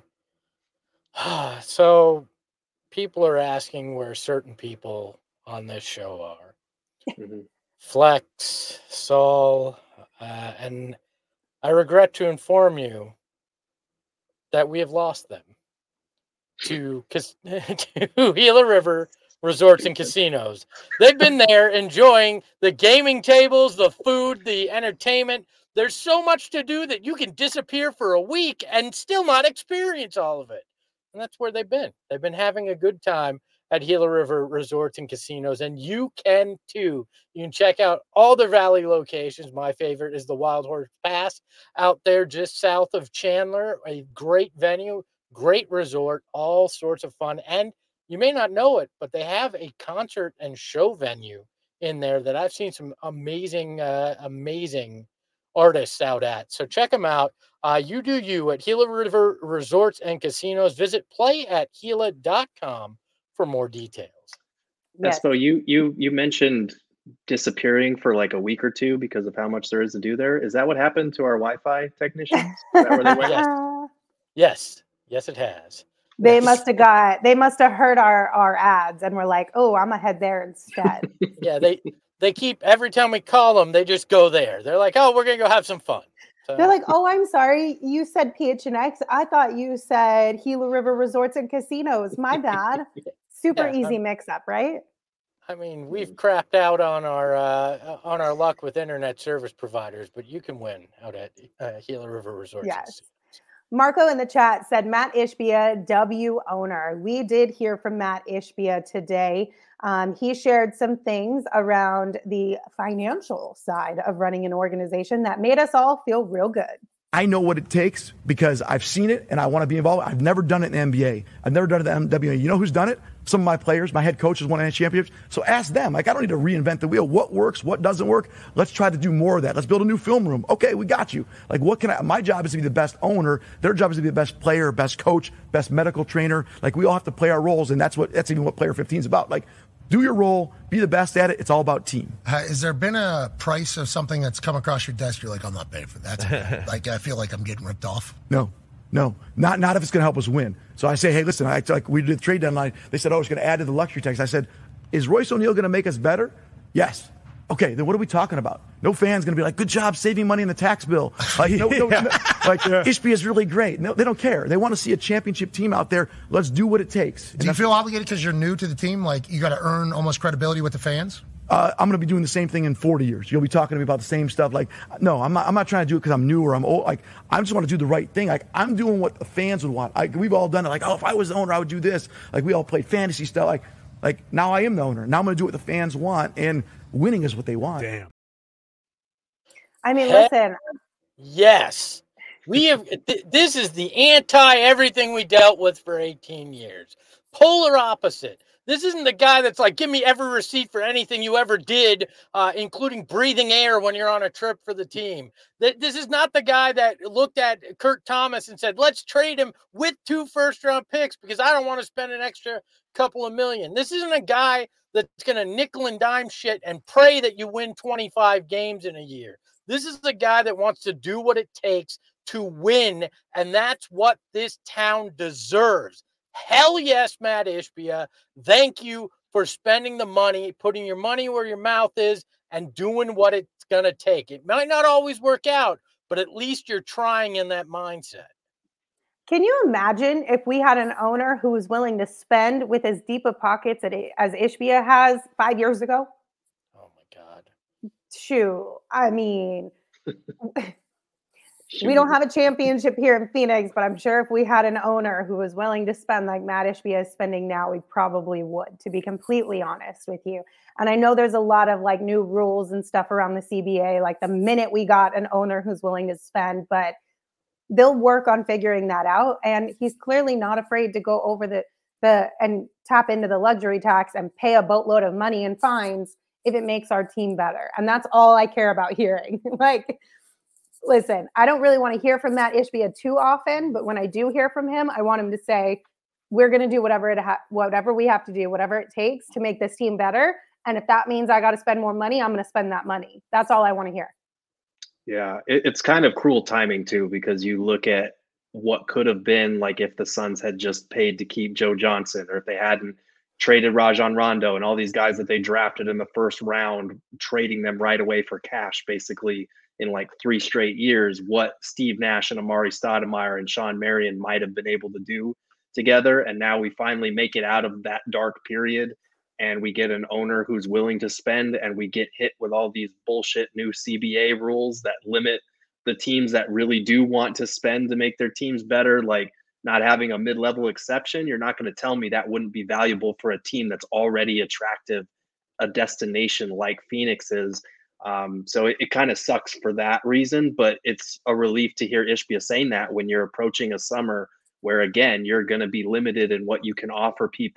So people are asking where certain people on this show are. Flex, Saul, and I regret to inform you that we have lost them to Gila River Resorts and Casinos. They've been there enjoying the gaming tables, the food, the entertainment. There's so much to do that you can disappear for a week and still not experience all of it. And that's where they've been. They've been having a good time at Gila River Resorts and Casinos, and you can too. You can check out all their Valley locations. My favorite is the Wild Horse Pass out there just south of Chandler. A great venue, great resort, all sorts of fun. And you may not know it, but they have a concert and show venue in there that I've seen some amazing artists out at. So check them out. You do you at Gila River Resorts and Casinos. Visit playatgila.com for more details. Yes. Espo, you mentioned disappearing for like a week or two because of how much there is to do there. Is that what happened to our Wi-Fi technicians? Is that where they went? Yes, it has. They must have heard our ads and were like, "Oh, I'm gonna head there instead." Yeah, they keep, every time we call them, they just go there. They're like, "Oh, we're gonna go have some fun." So, they're like, "Oh, I'm sorry, you said PHNX. I thought you said Gila River Resorts and Casinos. My bad." Super easy mix-up, right? I mean, we've crapped out on our luck with internet service providers, but you can win out at Gila River Resorts. Yes. Marco in the chat said, Matt Ishbia, W owner. We did hear from Matt Ishbia today. He shared some things around the financial side of running an organization that made us all feel real good. I know what it takes because I've seen it and I want to be involved. I've never done it in the NBA. I've never done it in the WNBA. You know who's done it? Some of my players, my head coaches won championships. So ask them. Like, I don't need to reinvent the wheel. What works? What doesn't work? Let's try to do more of that. Let's build a new film room. Okay, we got you. Like, my job is to be the best owner. Their job is to be the best player, best coach, best medical trainer. Like, we all have to play our roles, and that's even what Player 15 is about. Like, do your role, be the best at it. It's all about team. Has there been a price of something that's come across your desk? You're like, I'm not paying for that. Like, I feel like I'm getting ripped off. No, not if it's going to help us win. So I say, hey, listen, like we did the trade deadline. They said, it's going to add to the luxury tax. I said, is Royce O'Neal going to make us better? Yes. Okay, then what are we talking about? No fan's going to be like, good job saving money in the tax bill. Ishbia is really great. No, they don't care. They want to see a championship team out there. Let's do what it takes. Do you feel obligated because you're new to the team? Like, you got to earn almost credibility with the fans? I'm going to be doing the same thing in 40 years. You'll be talking to me about the same stuff. Like, no, I'm not trying to do it because I'm new or I'm old. Like, I just want to do the right thing. Like, I'm doing what the fans would want. We've all done it. Like, if I was the owner, I would do this. Like, we all played fantasy stuff. Like now I am the owner. Now I'm going to do what the fans want, and winning is what they want. Damn. I mean, listen. Yes. We have. This is the anti-everything we dealt with for 18 years. Polar opposite. This isn't the guy that's like, give me every receipt for anything you ever did, including breathing air when you're on a trip for the team. This is not the guy that looked at Kurt Thomas and said, let's trade him with 2 first-round picks because I don't want to spend an extra couple of million. This isn't a guy that's going to nickel and dime shit and pray that you win 25 games in a year. This is the guy that wants to do what it takes to win, and that's what this town deserves. Hell yes, Matt Ishbia. Thank you for spending the money, putting your money where your mouth is, and doing what it's going to take. It might not always work out, but at least you're trying in that mindset. Can you imagine if we had an owner who was willing to spend with as deep of pockets as Ishbia has 5 years ago? Oh, my God. Shoot. I mean... We don't have a championship here in Phoenix, but I'm sure if we had an owner who was willing to spend like Matt Ishbia is spending now, we probably would, to be completely honest with you. And I know there's a lot of like new rules and stuff around the CBA, like the minute we got an owner who's willing to spend, but they'll work on figuring that out. And he's clearly not afraid to go over the and tap into the luxury tax and pay a boatload of money in fines if it makes our team better. And that's all I care about hearing. Listen, I don't really want to hear from Matt Ishbia too often, but when I do hear from him, I want him to say, we're going to do whatever we have to do, whatever it takes to make this team better. And if that means I got to spend more money, I'm going to spend that money. That's all I want to hear. Yeah, it's kind of cruel timing too, because you look at what could have been like if the Suns had just paid to keep Joe Johnson, or if they hadn't traded Rajon Rondo and all these guys that they drafted in the first round, trading them right away for cash, basically, in like 3 straight years, what Steve Nash and Amari Stoudemire and Sean Marion might have been able to do together. And now we finally make it out of that dark period, and we get an owner who's willing to spend, and we get hit with all these bullshit new CBA rules that limit the teams that really do want to spend to make their teams better. Like not having a mid-level exception, you're not going to tell me that wouldn't be valuable for a team that's already attractive, a destination like Phoenix is. So it kind of sucks for that reason, but it's a relief to hear Ishbia saying that when you're approaching a summer where, again, you're going to be limited in what you can offer people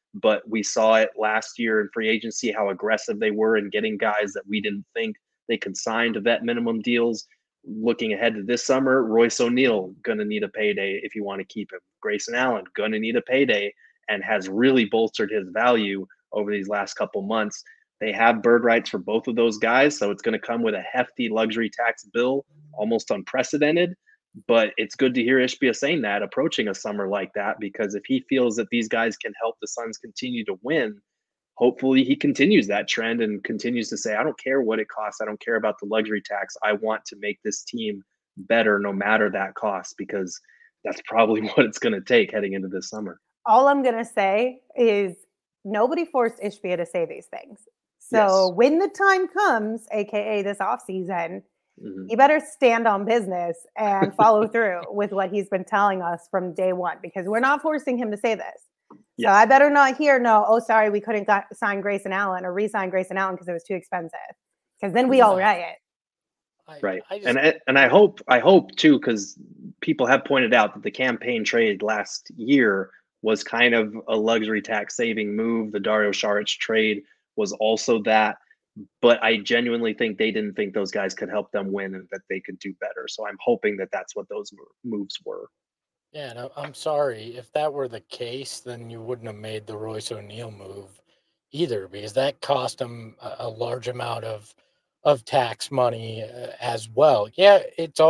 but we saw it last year in free agency, how aggressive they were in getting guys that we didn't think they could sign to vet minimum deals. Looking ahead to this summer, Royce O'Neal going to need a payday if you want to keep him. Grayson Allen going to need a payday and has really bolstered his value over these last couple months. They have bird rights for both of those guys, so it's going to come with a hefty luxury tax bill, almost unprecedented. But it's good to hear Ishbia saying that, approaching a summer like that, because if he feels that these guys can help the Suns continue to win, hopefully he continues that trend and continues to say, I don't care what it costs. I don't care about the luxury tax. I want to make this team better no matter that cost, because that's probably what it's going to take heading into this summer. All I'm going to say is nobody forced Ishbia to say these things. So when the time comes, AKA this offseason, you better stand on business and follow through with what he's been telling us from day one, because we're not forcing him to say this. So I better not hear, sorry, we couldn't sign Grayson Allen or re-sign Grayson Allen because it was too expensive. Because then we all riot. Right. And I hope too, because people have pointed out that the campaign trade last year was kind of a luxury tax saving move. The Dario Saric trade was also that. But I genuinely think they didn't think those guys could help them win and that they could do better. So I'm hoping that that's what those moves were. Yeah, no, I'm sorry. If that were the case, then you wouldn't have made the Royce O'Neal move either, because that cost them a large amount of tax money as well. Yeah,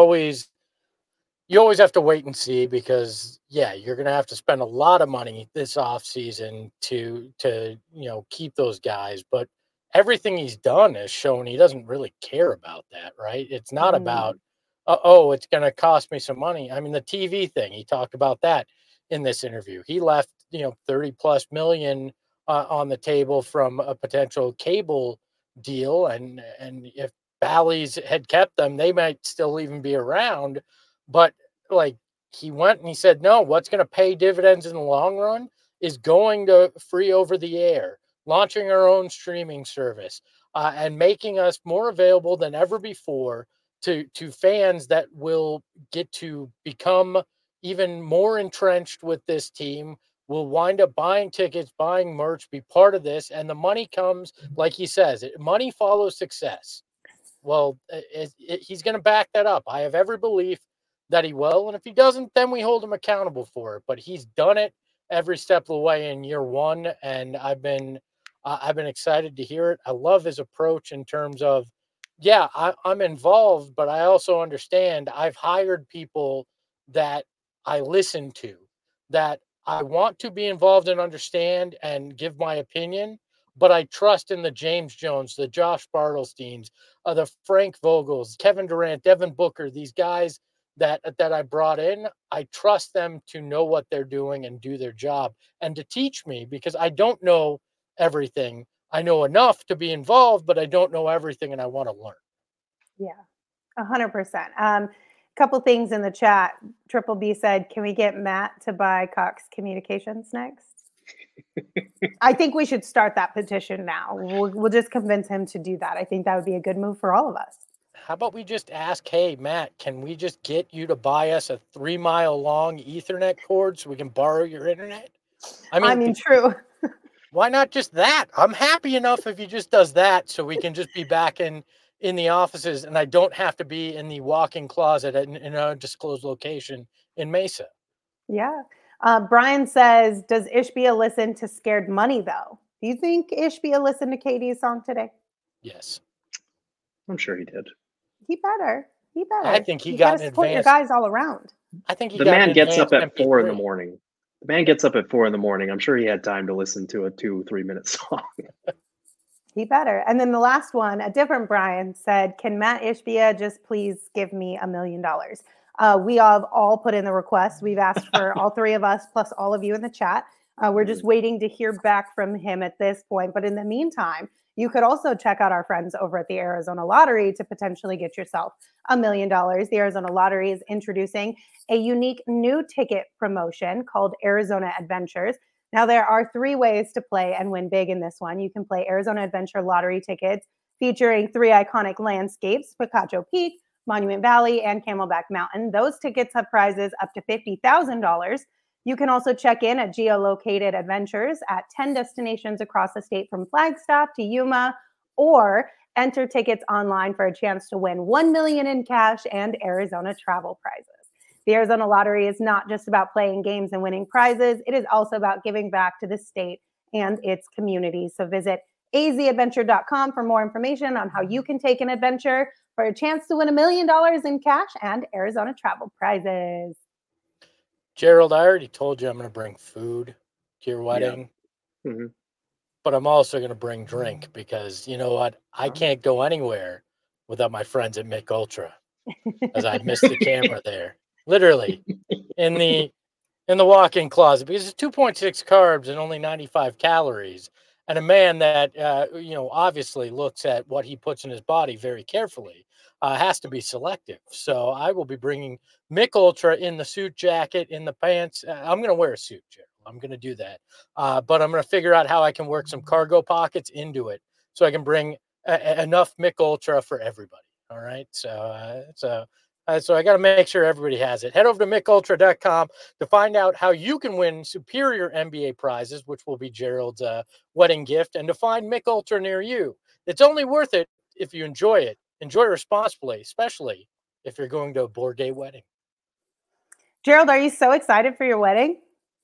you always have to wait and see, because you're going to have to spend a lot of money this offseason to keep those guys. But everything he's done has shown he doesn't really care about that, right? It's not about, it's going to cost me some money. I mean, the TV thing, he talked about that in this interview. He left, 30 plus million on the table from a potential cable deal. And if Bally's had kept them, they might still even be around. But he went and he said, no, what's going to pay dividends in the long run is going to free over the air, launching our own streaming service, and making us more available than ever before to fans that will get to become even more entrenched with this team, will wind up buying tickets, buying merch, be part of this. And the money comes, like he says, money follows success. Well, he's going to back that up. I have every belief that he will. And if he doesn't, then we hold him accountable for it. But he's done it every step of the way in year one. And I've been excited to hear it. I love his approach in terms of, I'm involved, but I also understand I've hired people that I listen to, that I want to be involved and understand and give my opinion, but I trust in the James Jones, the Josh Bartelsteins, the Frank Vogels, Kevin Durant, Devin Booker, these guys that I brought in. I trust them to know what they're doing and do their job and to teach me, because I don't know everything. I know enough to be involved, but I don't know everything, and I want to learn. Yeah, 100%. Couple things in the chat. Triple B said, can we get Matt to buy Cox Communications next? I think we should start that petition now. We'll just convince him to do that. I think that would be a good move for all of us. How about we just ask, hey, Matt, can we just get you to buy us a 3-mile long Ethernet cord so we can borrow your internet? I mean, true. Why not just that? I'm happy enough if he just does that, so we can just be back in the offices and I don't have to be in the walk-in closet in an undisclosed location in Mesa. Yeah. Brian says, does Ishbia listen to Scared Money, though? Do you think Ishbia listened to Katie's song today? Yes. I'm sure he did. He better. I think he got an support advanced. Your guys all around. I think the man gets up at 4 in the morning. The man gets up at 4 in the morning. I'm sure he had time to listen to a 2-3 minute song. He better. And then the last one, a different Brian said, can Matt Ishbia just please give me $1 million? We have all put in the request. We've asked for all three of us, plus all of you in the chat. We're just waiting to hear back from him at this point. But in the meantime, you could also check out our friends over at the Arizona Lottery to potentially get yourself $1 million. The Arizona Lottery is introducing a unique new ticket promotion called Arizona Adventures. Now, there are 3 ways to play and win big in this one. You can play Arizona Adventure Lottery tickets featuring 3 iconic landscapes, Picacho Peak, Monument Valley, and Camelback Mountain. Those tickets have prizes up to $50,000. You can also check in at geolocated adventures at 10 destinations across the state from Flagstaff to Yuma, or enter tickets online for a chance to win $1 million in cash and Arizona travel prizes. The Arizona Lottery is not just about playing games and winning prizes. It is also about giving back to the state and its community. So visit azadventure.com for more information on how you can take an adventure for a chance to win $1 million in cash and Arizona travel prizes. Gerald, I already told you I'm going to bring food to your wedding, but I'm also going to bring drink because you know what? I can't go anywhere without my friends at Mick Ultra, as I missed the camera there, literally in the walk-in closet, because it's 2.6 carbs and only 95 calories. And a man that, obviously looks at what he puts in his body very carefully has to be selective. So I will be bringing Mick Ultra in the suit jacket, in the pants. I'm going to wear a suit, Gerald. I'm going to do that. But I'm going to figure out how I can work some cargo pockets into it so I can bring enough Mick Ultra for everybody. All right. So I got to make sure everybody has it. Head over to MickUltra.com to find out how you can win superior NBA prizes, which will be Gerald's wedding gift, and to find Mick Ultra near you. It's only worth it if you enjoy it. Enjoy responsibly, especially if you're going to a Bourget wedding. Gerald, are you so excited for your wedding?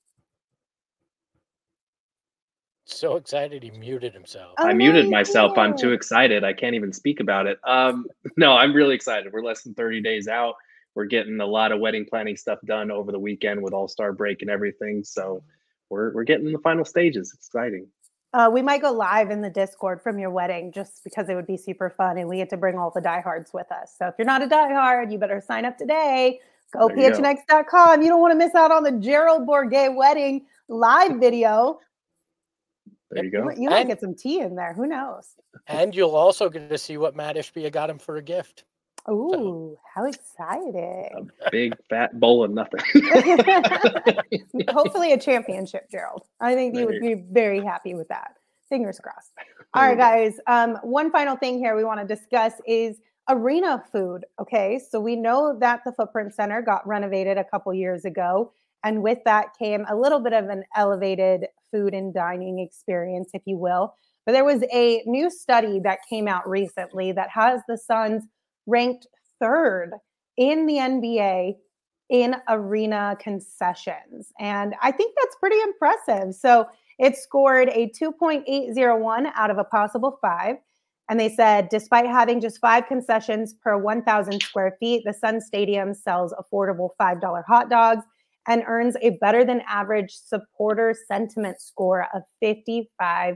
So excited he muted himself. I muted myself. I'm too excited. I can't even speak about it. No, I'm really excited. We're less than 30 days out. We're getting a lot of wedding planning stuff done over the weekend with All-Star break and everything. So we're getting in the final stages. It's exciting. We might go live in the Discord from your wedding just because it would be super fun, and we get to bring all the diehards with us. So if you're not a diehard, you better sign up today. Go phnx.com. You don't want to miss out on the Gerald Bourget wedding live video. There you go. You might get some tea in there. Who knows? And you'll also get to see what Matt Ishbia got him for a gift. Ooh, how exciting. A big fat bowl of nothing. Hopefully a championship, Gerald. I think you would be very happy with that. Fingers crossed. All right, guys. One final thing here we want to discuss is arena food. Okay, so we know that the Footprint Center got renovated a couple years ago. And with that came a little bit of an elevated food and dining experience, if you will. But there was a new study that came out recently that has the Suns ranked third in the NBA in arena concessions. And I think that's pretty impressive. So it scored a 2.801 out of a possible 5. And they said, despite having just 5 concessions per 1,000 square feet, the Sun Stadium sells affordable $5 hot dogs and earns a better than average supporter sentiment score of 55%,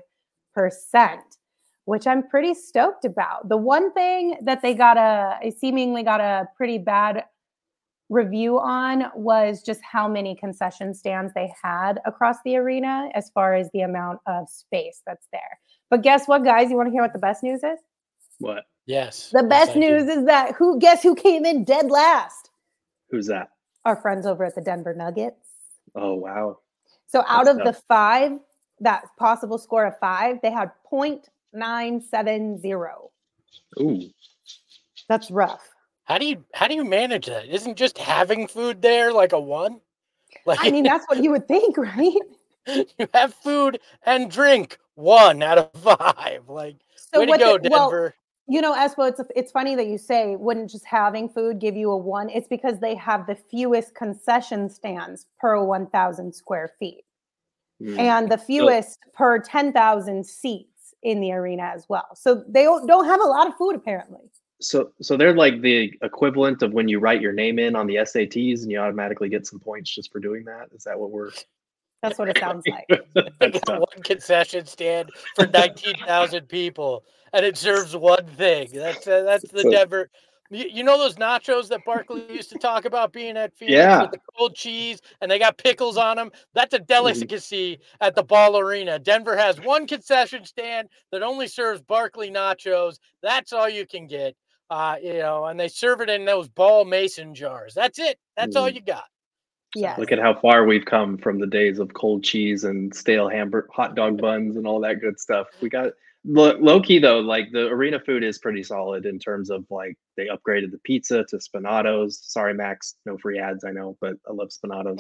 which I'm pretty stoked about. The one thing that they seemingly got a pretty bad review on was just how many concession stands they had across the arena as far as the amount of space that's there. But guess what, guys? You want to hear what the best news is? What? Yes. The best news is that guess who came in dead last? Who's that? Our friends over at the Denver Nuggets. Oh, wow. So out of the 5, that possible score of 5, they had 0.970. Ooh. That's rough. How do you manage that? Isn't just having food there like a 1? Like, I mean, that's what you would think, right? You have food and drink 1 out of 5. Like, so way to go, Denver. Well, Espo, it's funny that you say, wouldn't just having food give you a 1? It's because they have the fewest concession stands per 1,000 square feet and the fewest per 10,000 seats in the arena as well. So they don't have a lot of food, apparently. So they're like the equivalent of when you write your name in on the SATs and you automatically get some points just for doing that. Is that what we're... That's what it sounds like. They got 1 concession stand for 19,000 people, and it serves 1 thing. That's the Denver. You know those nachos that Barkley used to talk about being at Phoenix with the cold cheese, and they got pickles on them? That's a delicacy at the Ball Arena. Denver has 1 concession stand that only serves Barkley nachos. That's all you can get, and they serve it in those Ball Mason jars. That's it. That's all you got. Yeah. Look at how far we've come from the days of cold cheese and stale hot dog buns and all that good stuff. We got low key though, like the arena food is pretty solid in terms of like they upgraded the pizza to Spinato's. Sorry, Max, no free ads, I know, but I love Spinato's.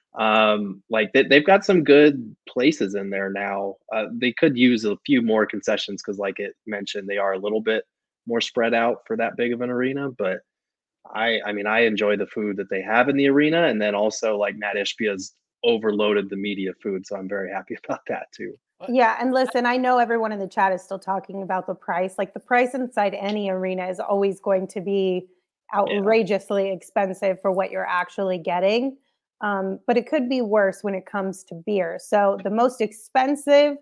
Like they've got some good places in there now. They could use a few more concessions because, like it mentioned, they are a little bit more spread out for that big of an arena. But I mean, I enjoy the food that they have in the arena, and then also like Matt Ishbia's overloaded the media food, so I'm very happy about that too. Yeah, and listen, I know everyone in the chat is still talking about the price. Like the price inside any arena is always going to be outrageously expensive for what you're actually getting. But it could be worse when it comes to beer. So the most expensive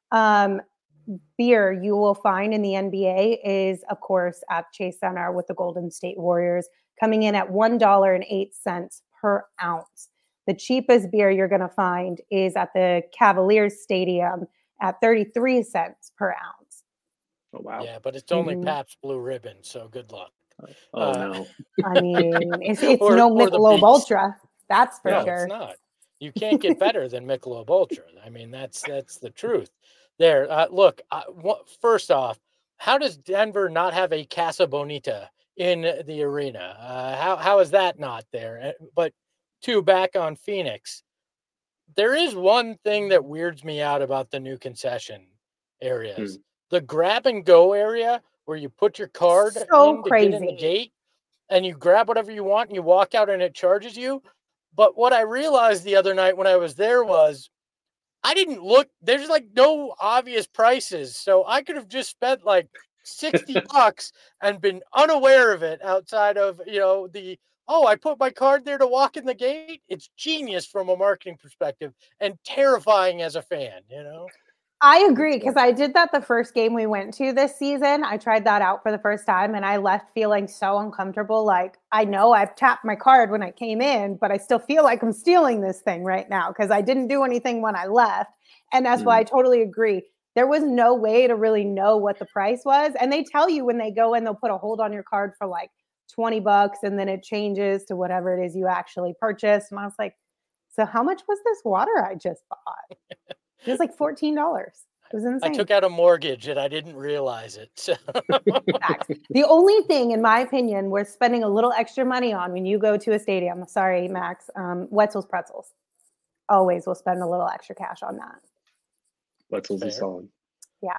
beer you will find in the NBA is, of course, at Chase Center with the Golden State Warriors, coming in at $1.08 per ounce. The cheapest beer you're going to find is at the Cavaliers Stadium at 33 cents per ounce. Oh, wow. Yeah, but it's only Pabst Blue Ribbon, so good luck. Oh, no. I mean, it's no Michelob Ultra. That's for sure. It's not. You can't get better than Michelob Ultra. I mean, that's the truth. There. Look, first off, how does Denver not have a Casa Bonita in the arena? How is that not there? But two, back on Phoenix, there is one thing that weirds me out about the new concession areas. The grab and go area where you put your card so to get in the gate and you grab whatever you want and you walk out and it charges you. But what I realized the other night when I was there was I didn't look, there's like no obvious prices. So I could have just spent like $60 and been unaware of it outside of, I put my card there to walk in the gate. It's genius from a marketing perspective and terrifying as a fan, I agree, because I did that the first game we went to this season. I tried that out for the first time and I left feeling so uncomfortable. Like, I know I've tapped my card when I came in, but I still feel like I'm stealing this thing right now because I didn't do anything when I left. And that's why I totally agree. There was no way to really know what the price was. And they tell you when they go in, they'll put a hold on your card for like $20 and then it changes to whatever it is you actually purchased. And I was like, so how much was this water I just bought? It was like $14. It was insane. I took out a mortgage and I didn't realize it. So. The only thing, in my opinion, we're spending a little extra money on when you go to a stadium. Sorry, Max. Wetzel's Pretzels. Always will spend a little extra cash on that. Wetzel's is solid. Yeah.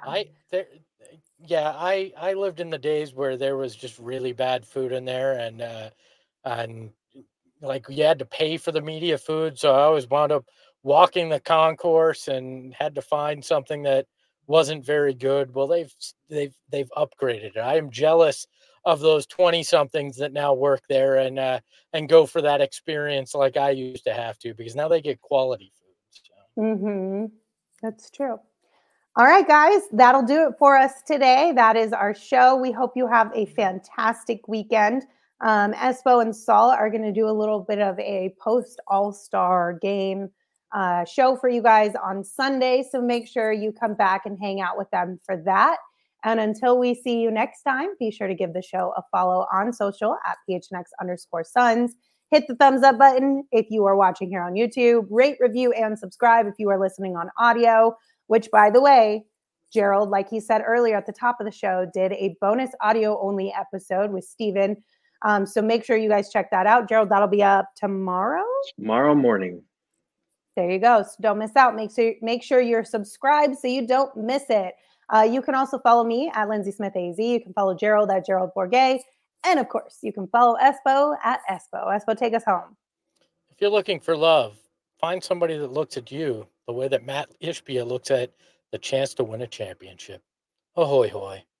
I lived in the days where there was just really bad food in there and like you had to pay for the media food. So I always wound up walking the concourse and had to find something that wasn't very good. Well, they've upgraded it. I am jealous of those 20 somethings that now work there and go for that experience like I used to have to, because now they get quality food. So. That's true. All right, guys, that'll do it for us today. That is our show. We hope you have a fantastic weekend. Espo and Saul are going to do a little bit of a post All-Star game show for you guys on Sunday. So make sure you come back and hang out with them for that. And until we see you next time, be sure to give the show a follow on social at PHNX_Suns. Hit the thumbs up button if you are watching here on YouTube. Rate, review, and subscribe if you are listening on audio, which, by the way, Gerald, like he said earlier at the top of the show, did a bonus audio only episode with Steven. So make sure you guys check that out. Gerald, that'll be up tomorrow? Tomorrow morning. There you go. So don't miss out. Make sure you're subscribed so you don't miss it. You can also follow me at Lindsay Smith AZ. You can follow Gerald at Gerald Bourget. And of course, you can follow Espo at Espo. Espo, take us home. If you're looking for love, find somebody that looks at you the way that Matt Ishbia looks at the chance to win a championship. Ahoy, hoy.